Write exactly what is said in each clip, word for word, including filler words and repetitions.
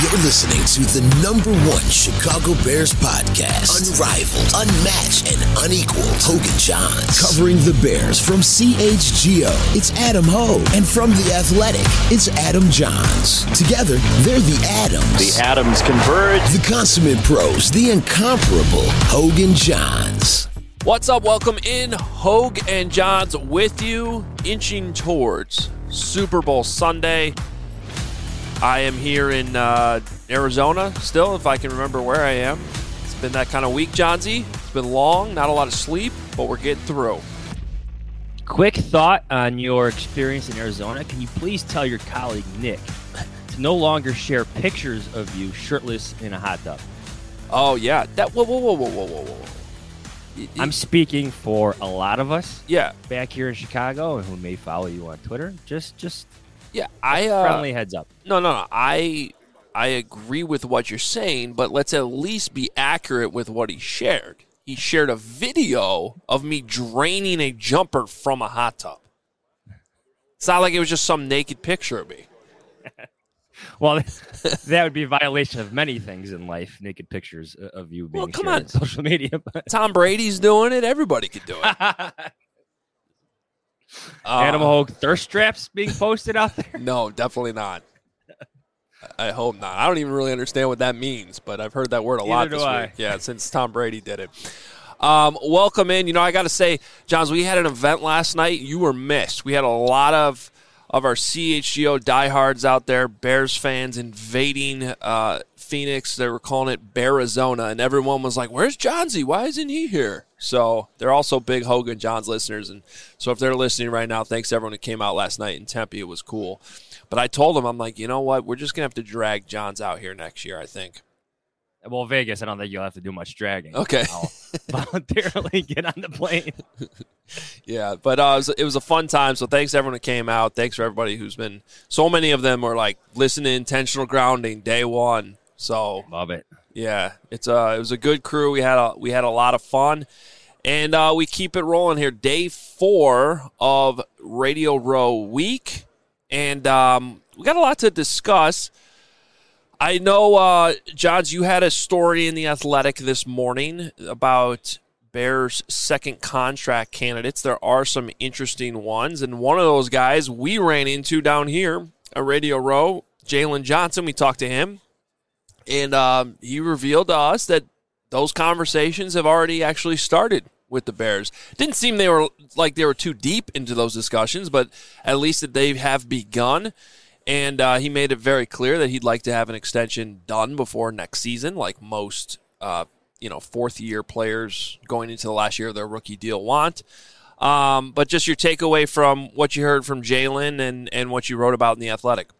You're listening to the number one Chicago Bears podcast. Unrivaled, unmatched, and unequaled. Hoge and Jahns. Covering the Bears from C H G O, it's Adam Hoge. And from The Athletic, it's Adam Jahns. Together, they're the Adams. The Adams converge. The consummate pros, the incomparable Hoge and Jahns. What's up? Welcome in. Hoge and Jahns with you, inching towards Super Bowl Sunday. I am here in uh, Arizona still, if I can remember where I am. It's been that kind of week, Johnsy. It's been long, not a lot of sleep, but we're getting through. Quick thought on your experience in Arizona. Can you please tell your colleague, Nick, to no longer share pictures of you shirtless in a hot tub? Oh, yeah. That. Whoa, whoa, whoa, whoa, whoa, whoa, whoa. I'm speaking for a lot of us yeah. back here in Chicago and who may follow you on Twitter. Just just yeah, I uh, friendly heads up. No, no, no. I I agree with what you're saying, but let's at least be accurate with what he shared. He shared a video of me draining a jumper from a hot tub. It's not like it was just some naked picture of me. Well, that would be a violation of many things in life, naked pictures of you being well, come shared on. on social media. But. Tom Brady's doing it. Everybody could do it. uh, Adam Hoge thirst traps being posted out there? No, definitely not. I hope not. I don't even really understand what that means, but I've heard that word a lot Neither this do I. week. Yeah, since Tom Brady did it. Um, welcome in. You know, I got to say, Jahns, we had an event last night. You were missed. We had a lot of of our C H G O diehards out there, Bears fans invading uh, Phoenix. They were calling it Bearizona, and everyone was like, where's Johnsy? Why isn't he here? So they're also big Hoge and Jahns listeners, and so if they're listening right now, thanks to everyone who came out last night in Tempe. It was cool. But I told them, I'm like, you know what? We're just going to have to drag Jahns out here next year, I think. Well, Vegas, I don't think you'll have to do much dragging. Okay. I'll voluntarily get on the plane. Yeah, but uh, it, was, it was a fun time, so thanks to everyone who came out. Thanks for everybody who's been – so many of them were like, listen to Intentional Grounding, day one. So love it. Yeah, it's uh, it was a good crew. We had a, we had a lot of fun, and uh, we keep it rolling here. Day four of Radio Row week, and um, we got a lot to discuss. I know, uh, Jahns, you had a story in The Athletic this morning about Bears' second contract candidates. There are some interesting ones, and one of those guys we ran into down here at Radio Row, Jaylon Johnson. We talked to him, and um, he revealed to us that those conversations have already actually started with the Bears. Didn't seem they were like they were too deep into those discussions, but at least that they have begun. And uh, he made it very clear that he'd like to have an extension done before next season, like most, uh, you know, fourth-year players going into the last year of their rookie deal want. Um, but just your takeaway from what you heard from Jaylon and, and what you wrote about in The Athletic.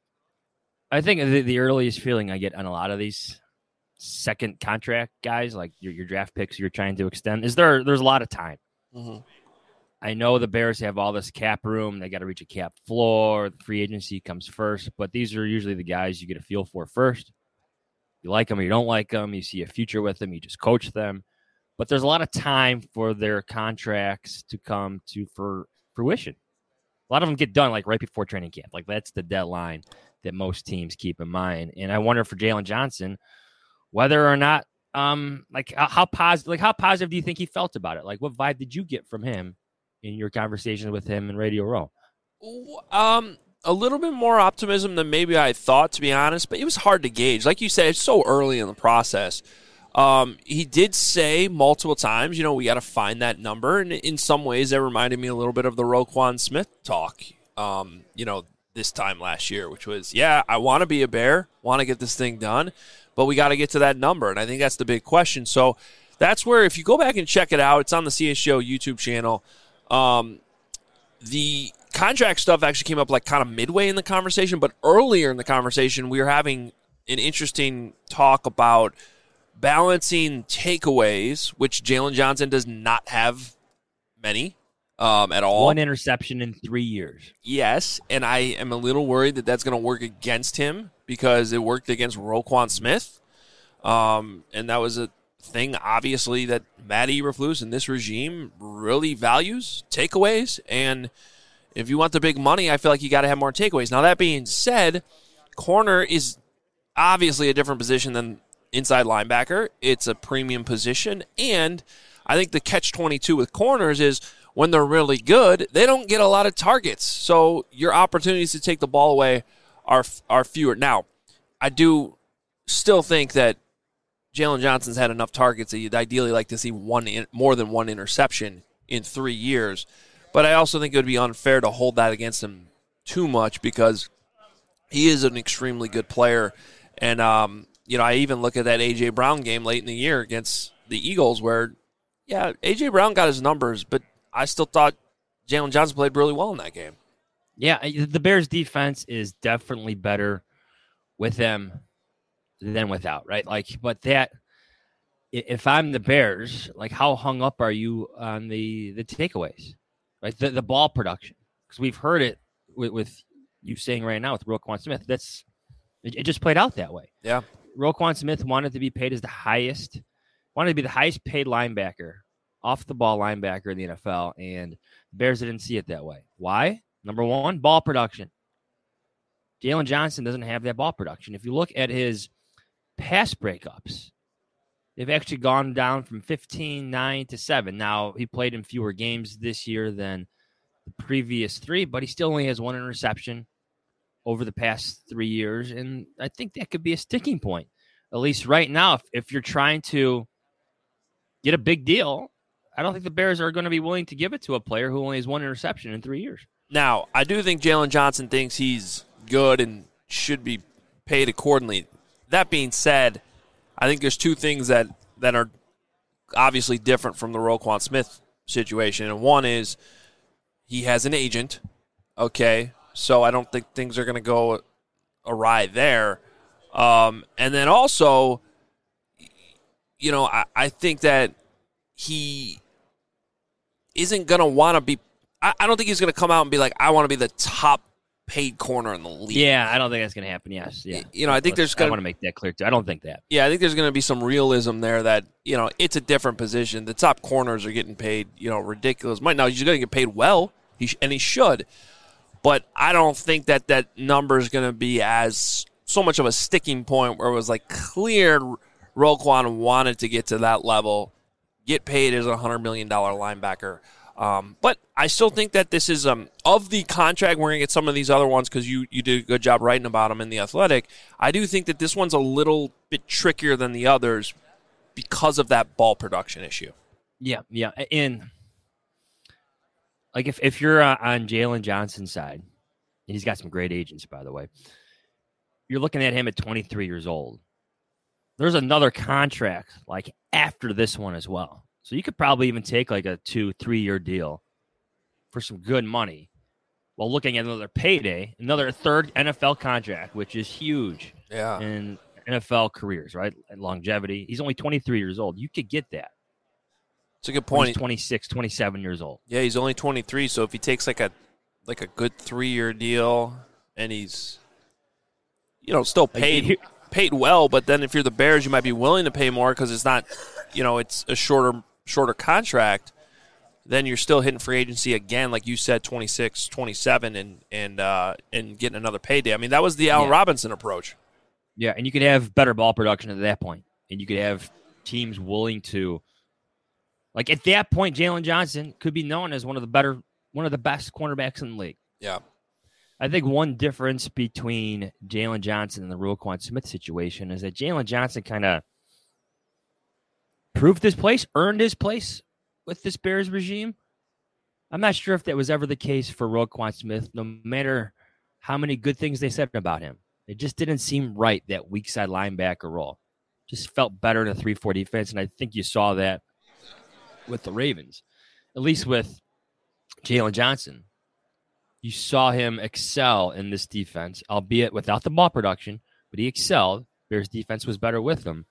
I think the, the earliest feeling I get on a lot of these second contract guys, like your, your draft picks you're trying to extend, is there there's a lot of time. Mm-hmm. I know the Bears have all this cap room. They got to reach a cap floor. The free agency comes first, but these are usually the guys you get a feel for first. You like them or you don't like them. You see a future with them. You just coach them. But there's a lot of time for their contracts to come to for fruition. A lot of them get done like right before training camp. Like that's the deadline that most teams keep in mind. And I wonder for Jaylon Johnson, whether or not, um, like how positive, like how positive do you think he felt about it? Like what vibe did you get from him in your conversation with him in Radio Row? Um, a little bit more optimism than maybe I thought, to be honest, but it was hard to gauge. Like you said, it's so early in the process. Um, he did say multiple times, you know, we got to find that number, and in some ways that reminded me a little bit of the Roquan Smith talk, um, you know, this time last year, which was, yeah, I want to be a Bear, want to get this thing done, but we got to get to that number, and I think that's the big question. So that's where, if you go back and check it out, it's on the C H G O YouTube channel. Um, the contract stuff actually came up like kind of midway in the conversation, but earlier in the conversation, we were having an interesting talk about balancing takeaways, which Jaylon Johnson does not have many um, at all. One interception in three years. Yes, and I am a little worried that that's going to work against him because it worked against Roquan Smith, um, and that was a thing, obviously, that Matt Eberflus and this regime really values, takeaways. And if you want the big money, I feel like you got to have more takeaways. Now, that being said, corner is obviously a different position than inside linebacker. It's a premium position, and I think the catch twenty-two with corners is when they're really good, they don't get a lot of targets. So your opportunities to take the ball away are are fewer. Now, I do still think that Jalen Johnson's had enough targets that you'd ideally like to see one in, more than one interception in three years. But I also think it would be unfair to hold that against him too much because he is an extremely good player. And, um, you know, I even look at that A J. Brown game late in the year against the Eagles where, yeah, A J. Brown got his numbers, but I still thought Jalen Johnson played really well in that game. Yeah, the Bears' defense is definitely better with them than without, right? Like, but that, if I'm the Bears, like, how hung up are you on the the takeaways, right? The the ball production, because we've heard it with, with you saying right now with Roquan Smith. That's it, it just played out that way. Yeah, Roquan Smith wanted to be paid as the highest, wanted to be the highest paid linebacker, off the ball linebacker in the N F L, and the Bears didn't see it that way. Why? Number one, ball production. Jalen Johnson doesn't have that ball production. If you look at his pass breakups, they've actually gone down from fifteen, nine to seven. Now, he played in fewer games this year than the previous three, but he still only has one interception over the past three years, and I think that could be a sticking point, at least right now. If, if you're trying to get a big deal, I don't think the Bears are going to be willing to give it to a player who only has one interception in three years. Now, I do think Jalen Johnson thinks he's good and should be paid accordingly. That being said, I think there's two things that, that are obviously different from the Roquan Smith situation. And one is he has an agent, okay? So I don't think things are going to go awry there. Um, and then also, you know, I, I think that he isn't going to want to be – I don't think he's going to come out and be like, I want to be the top paid corner in the league. Yeah, I don't think that's going to happen, yes. Yeah. You know, I think there's going to – I want to make that clear, too. I don't think that. Yeah, I think there's going to be some realism there that, you know, it's a different position. The top corners are getting paid, you know, ridiculous money. Now, he's going to get paid well, he sh- and he should. But I don't think that that number is going to be as so much of a sticking point where it was like clear Roquan wanted to get to that level, get paid as a one hundred million dollars linebacker. Um, but I still think that this is, um, of the contract, we're going to get some of these other ones because you, you did a good job writing about them in The Athletic. I do think that this one's a little bit trickier than the others because of that ball production issue. Yeah, yeah. And, like, if, if you're uh, on Jalen Johnson's side, and he's got some great agents, by the way, you're looking at him at twenty-three years old. There's another contract, like, after this one as well. So you could probably even take like a two, three-year deal for some good money while looking at another payday, another third N F L contract, which is huge yeah. in N F L careers, right? And longevity. He's only twenty-three years old. You could get that. It's a good point. He's twenty-six, twenty-seven years old. Yeah, he's only twenty-three, so if he takes like a like a good three-year deal and he's, you know, still paid Like, paid well, but then if you're the Bears, you might be willing to pay more because it's not, you know, it's a shorter shorter contract, then you're still hitting free agency again, like you said, twenty-six, twenty-seven, and and uh, and getting another payday. I mean, that was the Allen Yeah. Robinson approach. Yeah, and you could have better ball production at that point, and you could have teams willing to, like at that point, Jalen Johnson could be known as one of the better, one of the best cornerbacks in the league. Yeah. I think one difference between Jalen Johnson and the Roquan Smith situation is that Jalen Johnson kind of proved his place, earned his place with this Bears regime. I'm not sure if that was ever the case for Roquan Smith, no matter how many good things they said about him. It just didn't seem right, that weak side linebacker role. Just felt better in a three four defense, and I think you saw that with the Ravens. At least with Jalen Johnson. You saw him excel in this defense, albeit without the ball production, but he excelled. Bears defense was better with him.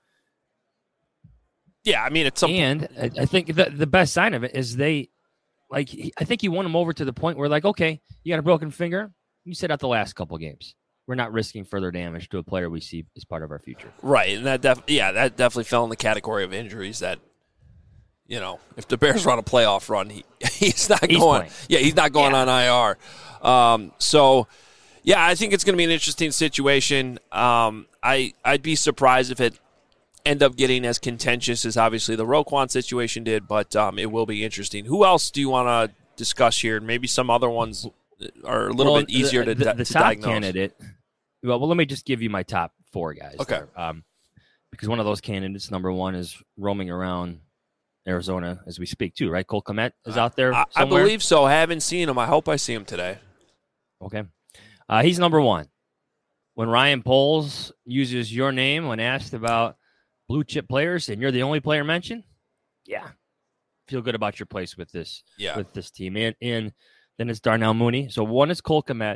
Yeah, I mean, it's some and I, I think the, the best sign of it is they, like, he, I think he won him over to the point where, like, okay, you got a broken finger. You sit out the last couple games. We're not risking further damage to a player we see as part of our future. Right, and that def- yeah, that definitely fell in the category of injuries that, you know, if the Bears run a playoff run, he he's not He's going. playing. Yeah, he's not going Yeah. on I R. Um, so, yeah, I think it's going to be an interesting situation. Um, I, I'd be surprised if it end up getting as contentious as obviously the Roquan situation did, but um, it will be interesting. Who else do you want to discuss here? Maybe some other ones are a little well, bit easier the, to, the, di- the to top diagnose. Candidate. Well, well, let me just give you my top four guys. Okay. There. Um, because one of those candidates, number one, is roaming around Arizona as we speak, too, right? Cole Kmet is out there I, I believe so. I haven't seen him. I hope I see him today. Okay. Uh, he's number one. When Ryan Poles uses your name when asked about blue chip players and you're the only player mentioned, yeah, feel good about your place with this yeah. with this team. And, and then it's Darnell Mooney. So one is Cole Kmet.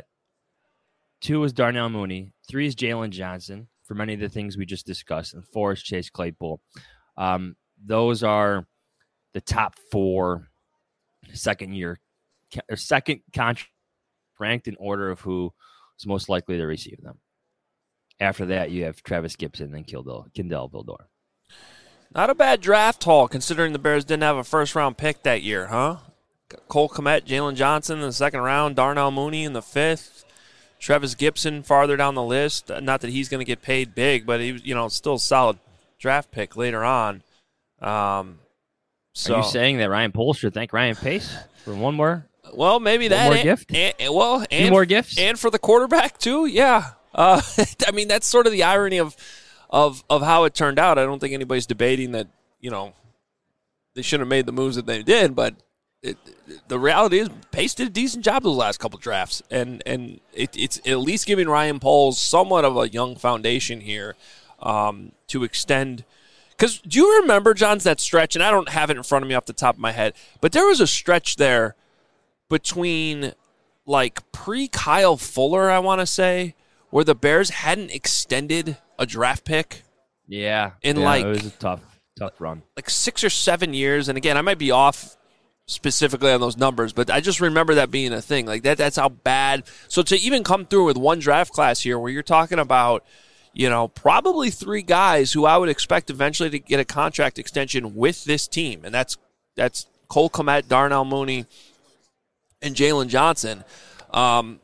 Two is Darnell Mooney. Three is Jalen Johnson for many of the things we just discussed. And four is Chase Claypool. Um, those are the top four second year or second contract ranked in order of who is most likely to receive them. After that, you have Travis Gibson and Kindell, Kindell Vildor. Not a bad draft haul, considering the Bears didn't have a first-round pick that year, huh? Cole Kmet, Jalen Johnson in the second round, Darnell Mooney in the fifth, Travis Gibson farther down the list. Not that he's going to get paid big, but he was, you know, still a solid draft pick later on. Um, so, Are you saying that Ryan Poles should thank Ryan Pace for one more? Well, maybe one that more and, gift. And, and, well, and Two more gifts, and for the quarterback too. Yeah, uh, I mean that's sort of the irony of of of how it turned out. I don't think anybody's debating that you know they shouldn't have made the moves that they did, but it, the reality is Pace did a decent job those last couple drafts, and and it, it's at least giving Ryan Poles somewhat of a young foundation here um, to extend. Because do you remember, John's, that stretch, and I don't have it in front of me off the top of my head, but there was a stretch there between, like, pre-Kyle Fuller, I want to say, where the Bears hadn't extended a draft pick. Yeah. In, yeah, like, it was a tough, tough run. Like six or seven years. And, again, I might be off specifically on those numbers, but I just remember that being a thing. Like, that. that's how bad. So to even come through with one draft class here where you're talking about, you know, probably three guys who I would expect eventually to get a contract extension with this team, and that's that's Cole Kmet, Darnell Mooney, and Jalen Johnson. Um,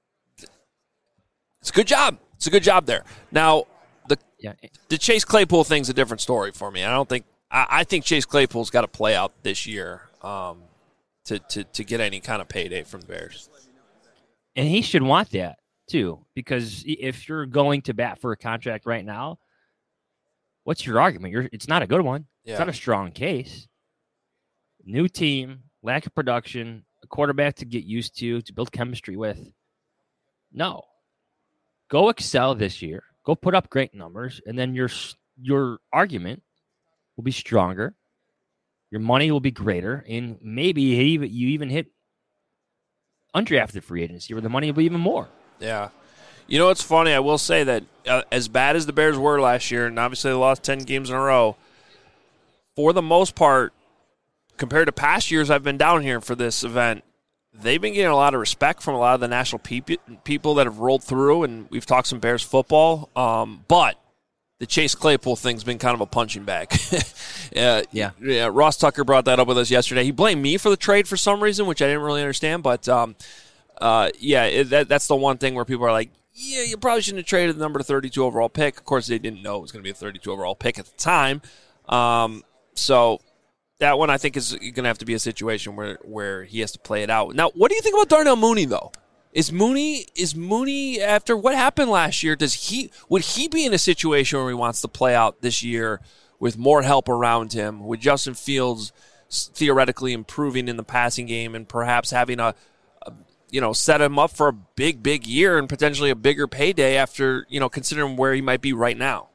it's a good job. It's a good job there. Now, the yeah. the Chase Claypool thing's a different story for me. I don't think I, I think Chase Claypool's got to play out this year um, to, to to get any kind of payday from the Bears, and he should want that too, because if you're going to bat for a contract right now, what's your argument? You're, it's not a good one. Yeah. It's not a strong case. New team, lack of production, a quarterback to get used to, to build chemistry with. No. Go excel this year. Go put up great numbers, and then your your argument will be stronger. Your money will be greater, and maybe you even hit undrafted free agency where the money will be even more. Yeah. You know, it's funny. I will say that uh, as bad as the Bears were last year, and obviously they lost ten games in a row, for the most part, compared to past years I've been down here for this event, they've been getting a lot of respect from a lot of the national pe- people that have rolled through, and we've talked some Bears football. Um, but the Chase Claypool thing's been kind of a punching bag. uh, yeah. yeah. Ross Tucker brought that up with us yesterday. He blamed me for the trade for some reason, which I didn't really understand, but um, – Uh, yeah, it, that, that's the one thing where people are like, yeah, you probably shouldn't have traded the number thirty-two overall pick. Of course, they didn't know it was going to be a thirty-two overall pick at the time. Um, so that one I think is going to have to be a situation where, where he has to play it out. Now, what do you think about Darnell Mooney, though? Is Mooney is Mooney after what happened last year? Does he would he be in a situation where he wants to play out this year with more help around him, with Justin Fields theoretically improving in the passing game and perhaps having a you know, set him up for a big, big year and potentially a bigger payday after, you know, considering where he might be right now?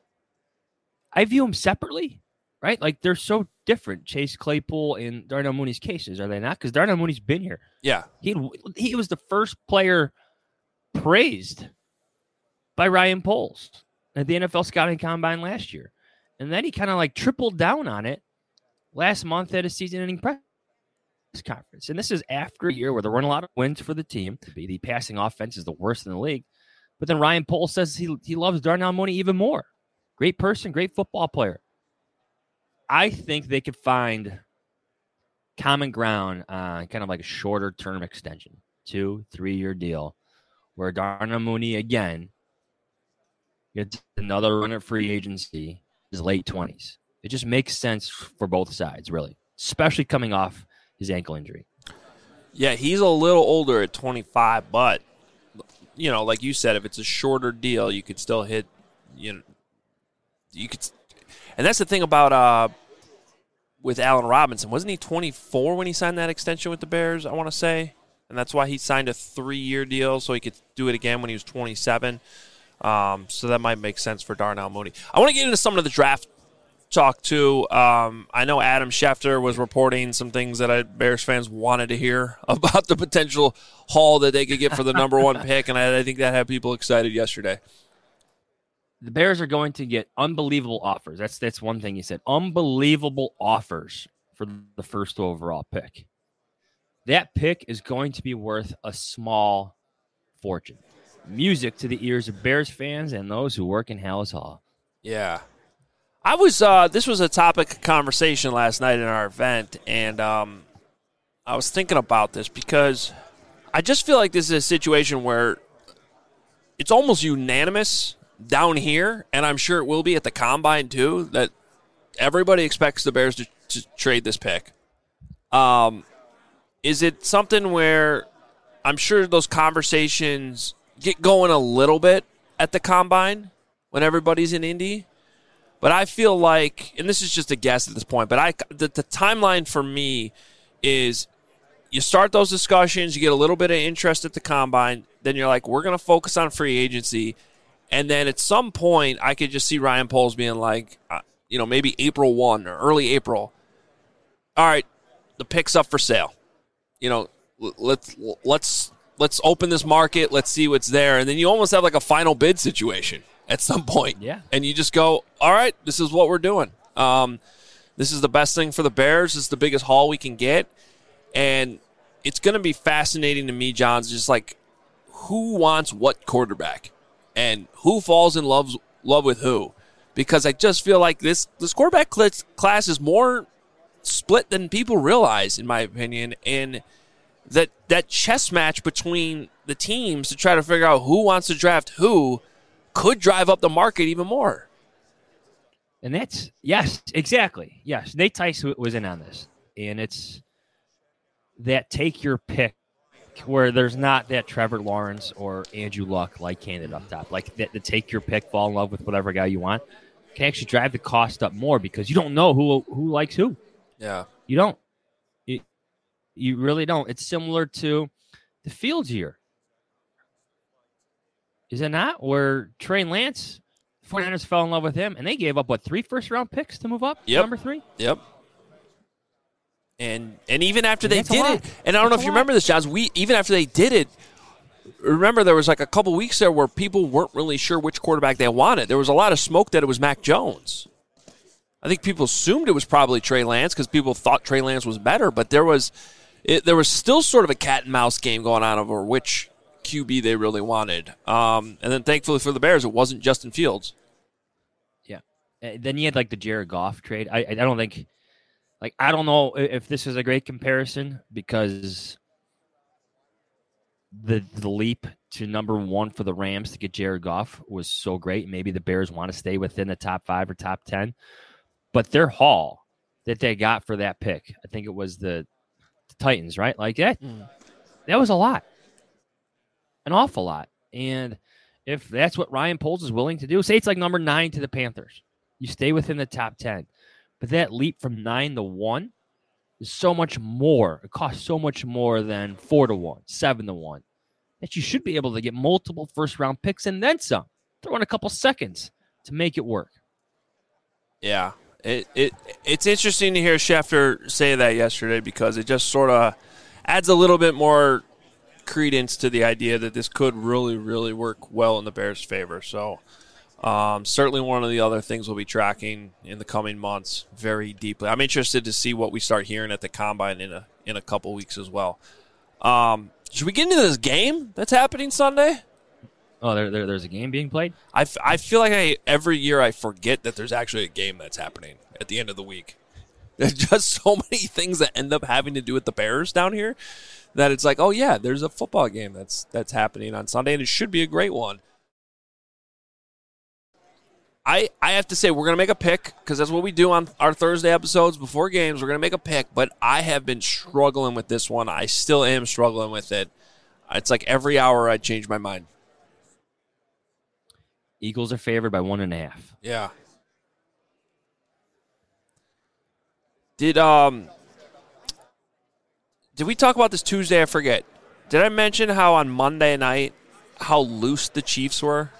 I view them separately, right? Like they're so different. Chase Claypool and Darnell Mooney's cases, are they not? Because Darnell Mooney's been here. Yeah. He he was the first player praised by Ryan Poles at the N F L Scouting Combine last year. And then he kind of like tripled down on it last month at a season-ending press conference. And this is after a year where there weren't a lot of wins for the team. The passing offense is the worst in the league. But then Ryan Poles says he, he loves Darnell Mooney even more. Great person, great football player. I think they could find common ground on kind of like a shorter term extension, two, three-year deal, where Darnell Mooney, again, gets another run at free agency, his late twenties. It just makes sense for both sides, really, especially coming off his ankle injury. Yeah, he's a little older at twenty-five, but, you know, like you said, if it's a shorter deal, you could still hit, you know, you could, and that's the thing about uh, with Allen Robinson. Wasn't he twenty-four when he signed that extension with the Bears, I want to say? And that's why he signed a three-year deal so he could do it again when he was twenty-seven. Um, so that might make sense for Darnell Mooney. I want to get into some of the draft talk, too. Um, I know Adam Schefter was reporting some things that I, Bears fans wanted to hear about the potential haul that they could get for the number one pick, and I, I think that had people excited yesterday. The Bears are going to get unbelievable offers. That's that's one thing he said. Unbelievable offers for the first overall pick. That pick is going to be worth a small fortune. Music to the ears of Bears fans and those who work in Hallis Hall. Yeah. I was, uh, this was a topic of conversation last night in our event, and um, I was thinking about this because I just feel like this is a situation where it's almost unanimous down here, and I'm sure it will be at the Combine too, that everybody expects the Bears to, to trade this pick. Um, is it something where I'm sure those conversations get going a little bit at the Combine when everybody's in Indy? But I feel like, and this is just a guess at this point, but I the, the timeline for me is you start those discussions, you get a little bit of interest at the Combine, then you're like, we're going to focus on free agency. And then at some point, I could just see Ryan Poles being like, uh, you know, maybe April first or early April. All right, the pick's up for sale. You know, let's let's let's open this market. Let's see what's there. And then you almost have like a final bid situation at some point. Yeah. And you just go, all right, this is what we're doing. Um, this is the best thing for the Bears. This is the biggest haul we can get. And it's going to be fascinating to me, John, just like who wants what quarterback and who falls in love, love with who. Because I just feel like this, this quarterback class is more split than people realize, in my opinion. And that, that chess match between the teams to try to figure out who wants to draft who could drive up the market even more. And that's, yes, exactly. Yes, Nate Tice was in on this. And it's that take your pick where there's not that Trevor Lawrence or Andrew Luck like candidate up top. Like that, the take your pick, fall in love with whatever guy you want, can actually drive the cost up more because you don't know who who likes who. Yeah. You don't. You, you really don't. It's similar to the Fields year. Is it not? Where Trey Lance, forty-niners fell in love with him, and they gave up, what, three first-round picks to move up? Yep. Number three? Yep. And and even after And they that's a did lot. it, and I don't That's know if a you lot. remember this, Johns, we even after they did it, remember there was like a couple weeks there where people weren't really sure which quarterback they wanted. There was a lot of smoke that it was Mac Jones. I think people assumed it was probably Trey Lance because people thought Trey Lance was better, but there was it, there was still sort of a cat and mouse game going on over which Q B they really wanted. Um, and then thankfully for the Bears, it wasn't Justin Fields. Yeah. Uh, then you had, like, the Jared Goff trade. I, I don't think, like, I don't know if this is a great comparison because the the leap to number one for the Rams to get Jared Goff was so great. Maybe the Bears want to stay within the top five or top ten. But their haul that they got for that pick, I think it was the, the Titans, right? Like that, mm. that was a lot. An awful lot. And if that's what Ryan Poles is willing to do, say it's like number nine to the Panthers. You stay within the top ten. But that leap from nine to one is so much more. It costs so much more than four to one, seven to one. That you should be able to get multiple first-round picks and then some. Throw in a couple seconds to make it work. Yeah. It it It's interesting to hear Schefter say that yesterday because it just sort of adds a little bit more credence to the idea that this could really, really work well in the Bears' favor. So um, certainly one of the other things we'll be tracking in the coming months very deeply. I'm interested to see what we start hearing at the Combine in a in a couple weeks as well. Um, should we get into this game that's happening Sunday? Oh, there, there there's a game being played? I, f- I feel like I every year I forget that there's actually a game that's happening at the end of the week. There's just so many things that end up having to do with the Bears down here that it's like, oh, yeah, there's a football game that's that's happening on Sunday, and it should be a great one. I, I have to say we're going to make a pick because that's what we do on our Thursday episodes before games. We're going to make a pick, but I have been struggling with this one. I still am struggling with it. It's like every hour I change my mind. Eagles are favored by one and a half. Yeah. Did um did we talk about this Tuesday? I forget. Did I mention how on Monday night how loose the Chiefs were?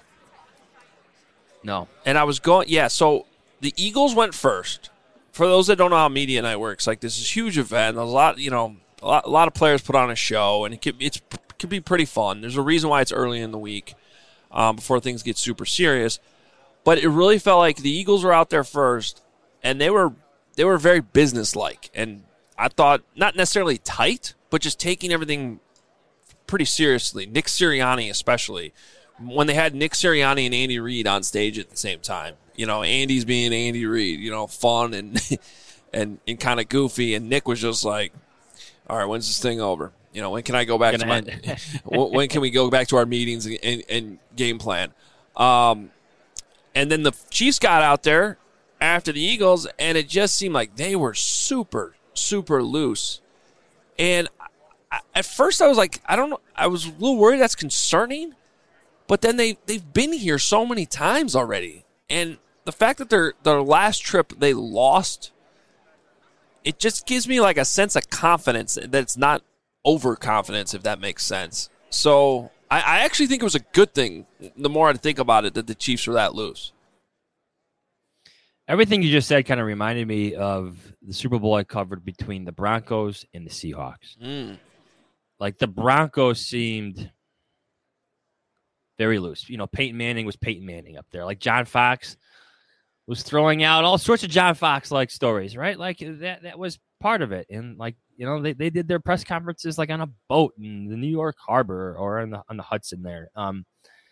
No. And I was going, yeah, so the Eagles went first. For those that don't know how media night works, like this is a huge event. There's a lot, you know, a lot, a lot of players put on a show, and it could, it's, it could be pretty fun. There's a reason why it's early in the week um, before things get super serious. But it really felt like the Eagles were out there first, and they were they were very businesslike. And I thought not necessarily tight, but just taking everything pretty seriously. Nick Sirianni especially. When they had Nick Sirianni and Andy Reid on stage at the same time. You know, Andy's being Andy Reid, you know, fun and and, and kind of goofy, and Nick was just like, all right, when's this thing over? You know, when can I go back to my when can we go back to our meetings and, and, and game plan? Um, and then the Chiefs got out there after the Eagles, and it just seemed like they were super, super loose. And I, at first I was like, I don't know, I was a little worried that's concerning. But then they, they've been here so many times already. And the fact that their their last trip they lost, it just gives me like a sense of confidence that it's not overconfidence, if that makes sense. So I, I actually think it was a good thing, the more I think about it, that the Chiefs were that loose. Everything you just said kind of reminded me of the Super Bowl I covered between the Broncos and the Seahawks. Mm. Like the Broncos seemed very loose. You know, Peyton Manning was Peyton Manning up there. Like John Fox was throwing out all sorts of John Fox-like stories, right? Like that that was part of it. And like, you know, they, they did their press conferences like on a boat in the New York Harbor or on the on the Hudson there. Um,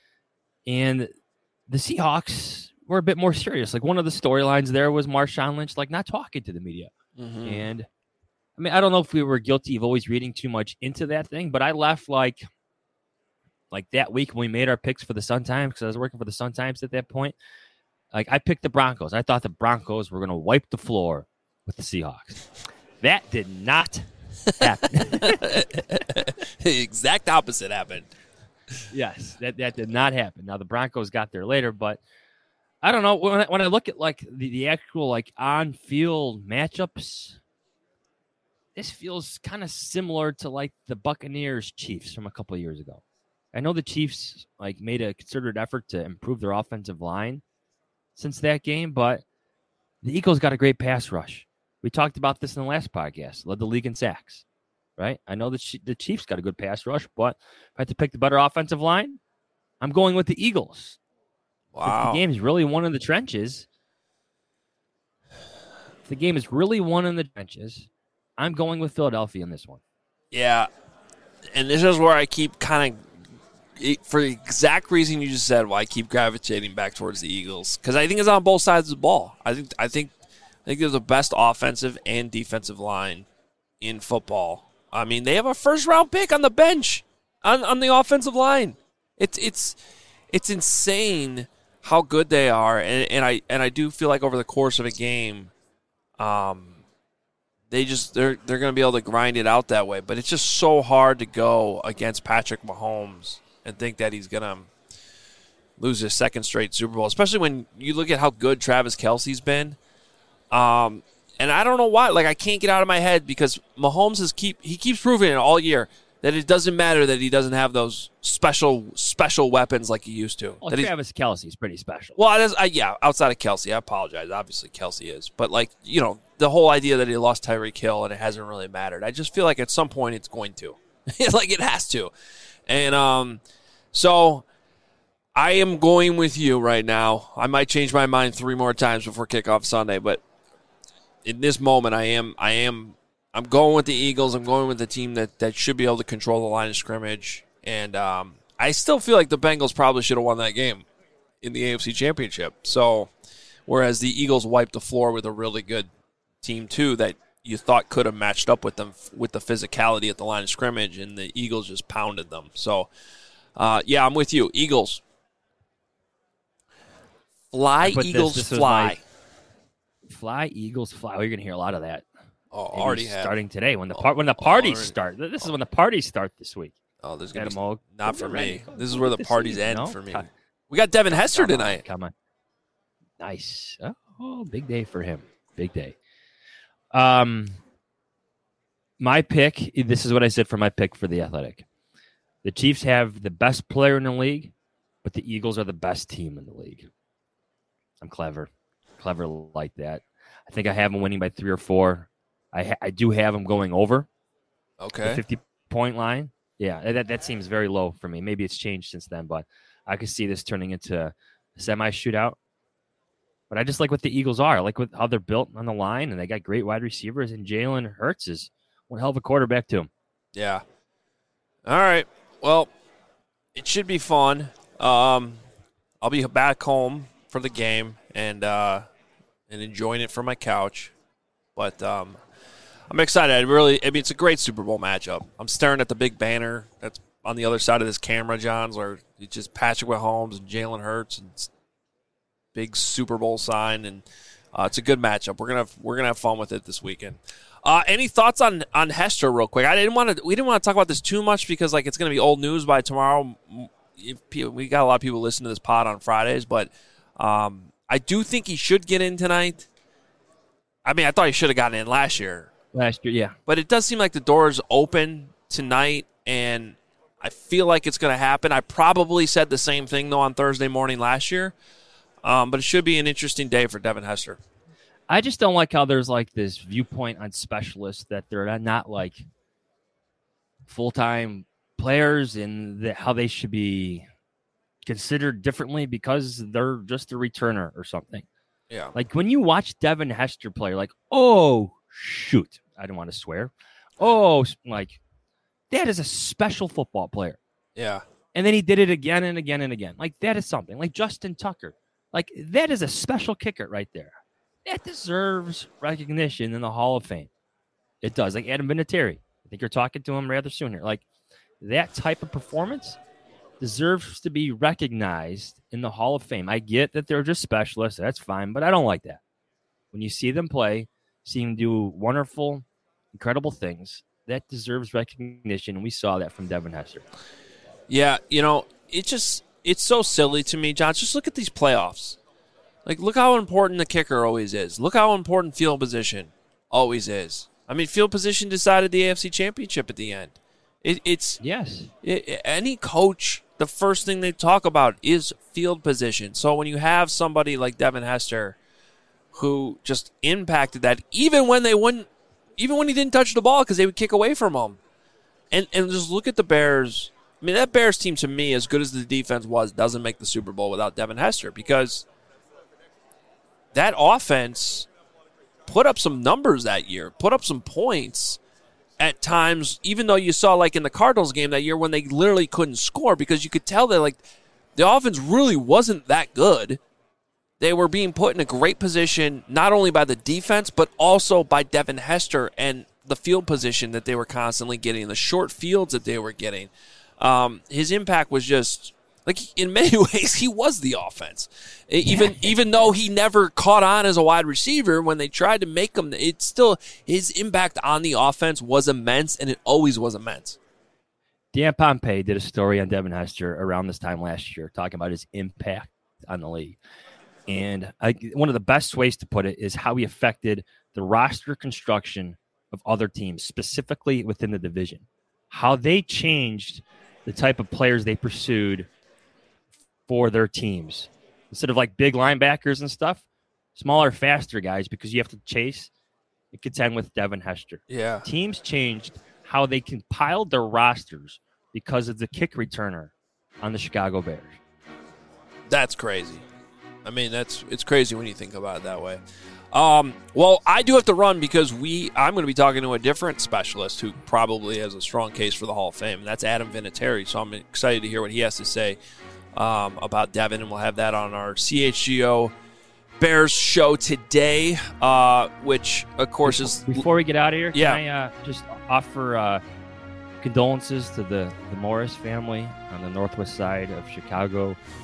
and the Seahawks were a bit more serious. Like one of the storylines there was Marshawn Lynch like not talking to the media. Mm-hmm. And I mean, I don't know if we were guilty of always reading too much into that thing, but I left like Like that week when we made our picks for the Sun-Times, because I was working for the Sun-Times at that point, like I picked the Broncos. I thought the Broncos were going to wipe the floor with the Seahawks. That did not happen. The exact opposite happened. Yes, that, that did not happen. Now the Broncos got there later, but I don't know. When I, when I look at like the, the actual like on-field matchups, this feels kind of similar to like the Buccaneers Chiefs from a couple of years ago. I know the Chiefs like made a concerted effort to improve their offensive line since that game, but the Eagles got a great pass rush. We talked about this in the last podcast. Led the league in sacks, right? I know the the Chiefs got a good pass rush, but if I had to pick the better offensive line, I'm going with the Eagles. Wow. If the game is really won in the trenches, if the game is really won in the trenches, I'm going with Philadelphia in this one. Yeah, and this is where I keep kind of, for the exact reason you just said, why I keep gravitating back towards the Eagles, because I think it's on both sides of the ball. I think I think I think they're the best offensive and defensive line in football. I mean, they have a first round pick on the bench on, on the offensive line. It's it's it's insane how good they are, and, and I and I do feel like over the course of a game, um, they just they're they're going to be able to grind it out that way. But it's just so hard to go against Patrick Mahomes and think that he's going to lose his second straight Super Bowl, especially when you look at how good Travis Kelce's been. Um, and I don't know why. Like, I can't get out of my head because Mahomes is keep he keeps proving it all year that it doesn't matter that he doesn't have those special special weapons like he used to. Well, that Travis Kelce is pretty special. Well, is, I, yeah, outside of Kelce, I apologize. Obviously, Kelce is. But, like, you know, the whole idea that he lost Tyreek Hill and it hasn't really mattered. I just feel like at some point it's going to. Like, it has to. And um, so I am going with you right now. I might change my mind three more times before kickoff Sunday, but in this moment, I am, I am, I'm going with the Eagles. I'm going with the team that, that should be able to control the line of scrimmage. And um, I still feel like the Bengals probably should have won that game in the A F C Championship. So, whereas the Eagles wiped the floor with a really good team too that you thought could have matched up with them with the physicality at the line of scrimmage, and the Eagles just pounded them. So, uh, yeah, I'm with you. Eagles. Fly, But Eagles, this, this fly. My, fly, Eagles, fly. Well, you're going to hear a lot of that. Oh, Maybe already have. starting today when the Oh, par- when the parties already. start. This is when the parties start this week. Oh, there's going to be Adam, not for me. This is where the This parties season, end no? for me. Come- We got Devin Hester come on, tonight. Come on. Nice. Oh, big day for him. Big day. Um, my pick, this is what I said for my pick for the Athletic. The Chiefs have the best player in the league, but the Eagles are the best team in the league. I'm clever. Clever like that. I think I have them winning by three or four. I ha- I do have them going over Okay. the fifty-point line. Yeah, that, that seems very low for me. Maybe it's changed since then, but I could see this turning into a semi-shootout. But I just like what the Eagles are. I like what, how they're built on the line, and they got great wide receivers, and Jalen Hurts is one hell of a quarterback, too. Yeah. All right. Well, it should be fun. Um, I'll be back home for the game and uh, and enjoying it from my couch. But um, I'm excited. I really, I mean, it's a great Super Bowl matchup. I'm staring at the big banner that's on the other side of this camera, Johns, where it's just Patrick Mahomes and Jalen Hurts and big Super Bowl sign, and uh, it's a good matchup. We're gonna have, we're gonna have fun with it this weekend. Uh, any thoughts on on Hester, real quick? I didn't want to. We didn't want to talk about this too much because like it's gonna be old news by tomorrow. If people, we got a lot of people listening to this pod on Fridays, but um, I do think he should get in tonight. I mean, I thought he should have gotten in last year. Last year, yeah. But it does seem like the door is open tonight, and I feel like it's going to happen. I probably said the same thing, though, on Thursday morning last year. Um, but it should be an interesting day for Devin Hester. I just don't like how there's like this viewpoint on specialists that they're not like full-time players and the, how they should be considered differently because they're just a returner or something. Yeah. Like when you watch Devin Hester play, like, oh, shoot. I don't want to swear. Oh, like that is a special football player. Yeah. And then he did it again and again and again. Like that is something. Like Justin Tucker. Like that is a special kicker right there. That deserves recognition in the Hall of Fame. It does. Like Adam Vinatieri. I think you're talking to him rather soon here. Like that type of performance deserves to be recognized in the Hall of Fame. I get that they're just specialists. That's fine, but I don't like that. When you see them play, see them do wonderful, incredible things, that deserves recognition, and we saw that from Devin Hester. Yeah, you know, it just it's so silly to me, John. Just look at these playoffs. Like, look how important the kicker always is. Look how important field position always is. I mean, field position decided the A F C Championship at the end. It, it's yes. It, any coach, the first thing they talk about is field position. So when you have somebody like Devin Hester, who just impacted that, even when they wouldn't, even when he didn't touch the ball because they would kick away from him, and and just look at the Bears. I mean, that Bears team, to me, as good as the defense was, doesn't make the Super Bowl without Devin Hester because that offense put up some numbers that year, put up some points at times, even though you saw like in the Cardinals game that year when they literally couldn't score because you could tell that like the offense really wasn't that good. They were being put in a great position not only by the defense but also by Devin Hester and the field position that they were constantly getting, the short fields that they were getting. Um, his impact was just like in many ways he was the offense. Even even though he never caught on as a wide receiver when they tried to make him, it's still his impact on the offense was immense, and it always was immense. Dan Pompei did a story on Devin Hester around this time last year talking about his impact on the league. And I, one of the best ways to put it is how he affected the roster construction of other teams, specifically within the division. How they changed the type of players they pursued for their teams. Instead of like big linebackers and stuff, smaller, faster guys because you have to chase and contend with Devin Hester. Yeah. Teams changed how they compiled their rosters because of the kick returner on the Chicago Bears. That's crazy. I mean, that's it's crazy when you think about it that way. Um, well, I do have to run because we I'm going to be talking to a different specialist who probably has a strong case for the Hall of Fame, and that's Adam Vinatieri. So I'm excited to hear what he has to say um, about Devin, and we'll have that on our C H G O Bears show today, uh, which, of course, is... Before we get out of here, can yeah. I uh, just offer uh, condolences to the, the Morris family on the northwest side of Chicago.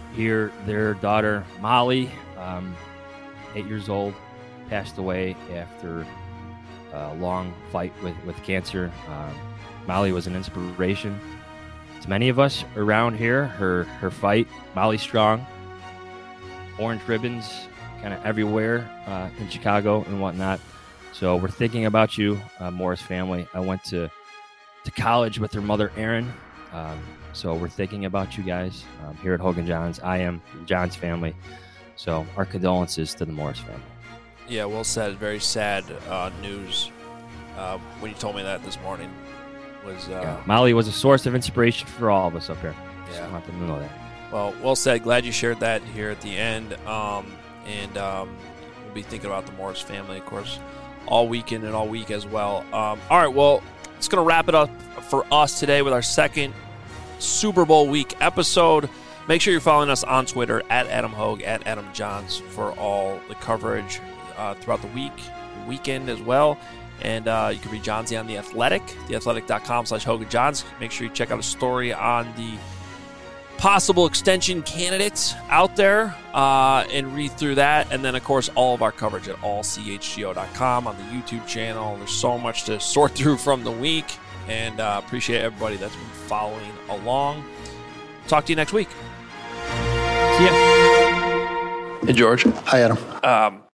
hear their daughter, Molly, um, eight years old, passed away after a long fight with, with cancer. Um, Molly was an inspiration to many of us around here. Her her fight, Molly Strong, orange ribbons kind of everywhere uh, in Chicago and whatnot. So we're thinking about you, uh, Morris family. I went to, to college with her mother, Erin. Um, so we're thinking about you guys um, here at Hogan Johns. I am John's family. So our condolences to the Morris family. Yeah, well said. Very sad uh, news uh, when you told me that this morning. Was uh, yeah, Molly was a source of inspiration for all of us up here. Yeah. So I want them to know that. Well, well said. Glad you shared that here at the end. Um, and um, we'll be thinking about the Morris family, of course, all weekend and all week as well. Um, all right, well, it's going to wrap it up for us today with our second Super Bowl week episode. Make sure you're following us on Twitter at Adam Hogue, at Adam Johns for all the coverage uh, throughout the week, weekend as well. And uh, you can read Johnsy on The Athletic, theathletic.com slash Hogan Johns. Make sure you check out a story on the possible extension candidates out there uh, and read through that. And then, of course, all of our coverage at all c h g o dot com on the YouTube channel. There's so much to sort through from the week. And uh, appreciate everybody that's been following along. Talk to you next week. See ya. Hey, George. Hi, Adam. Um,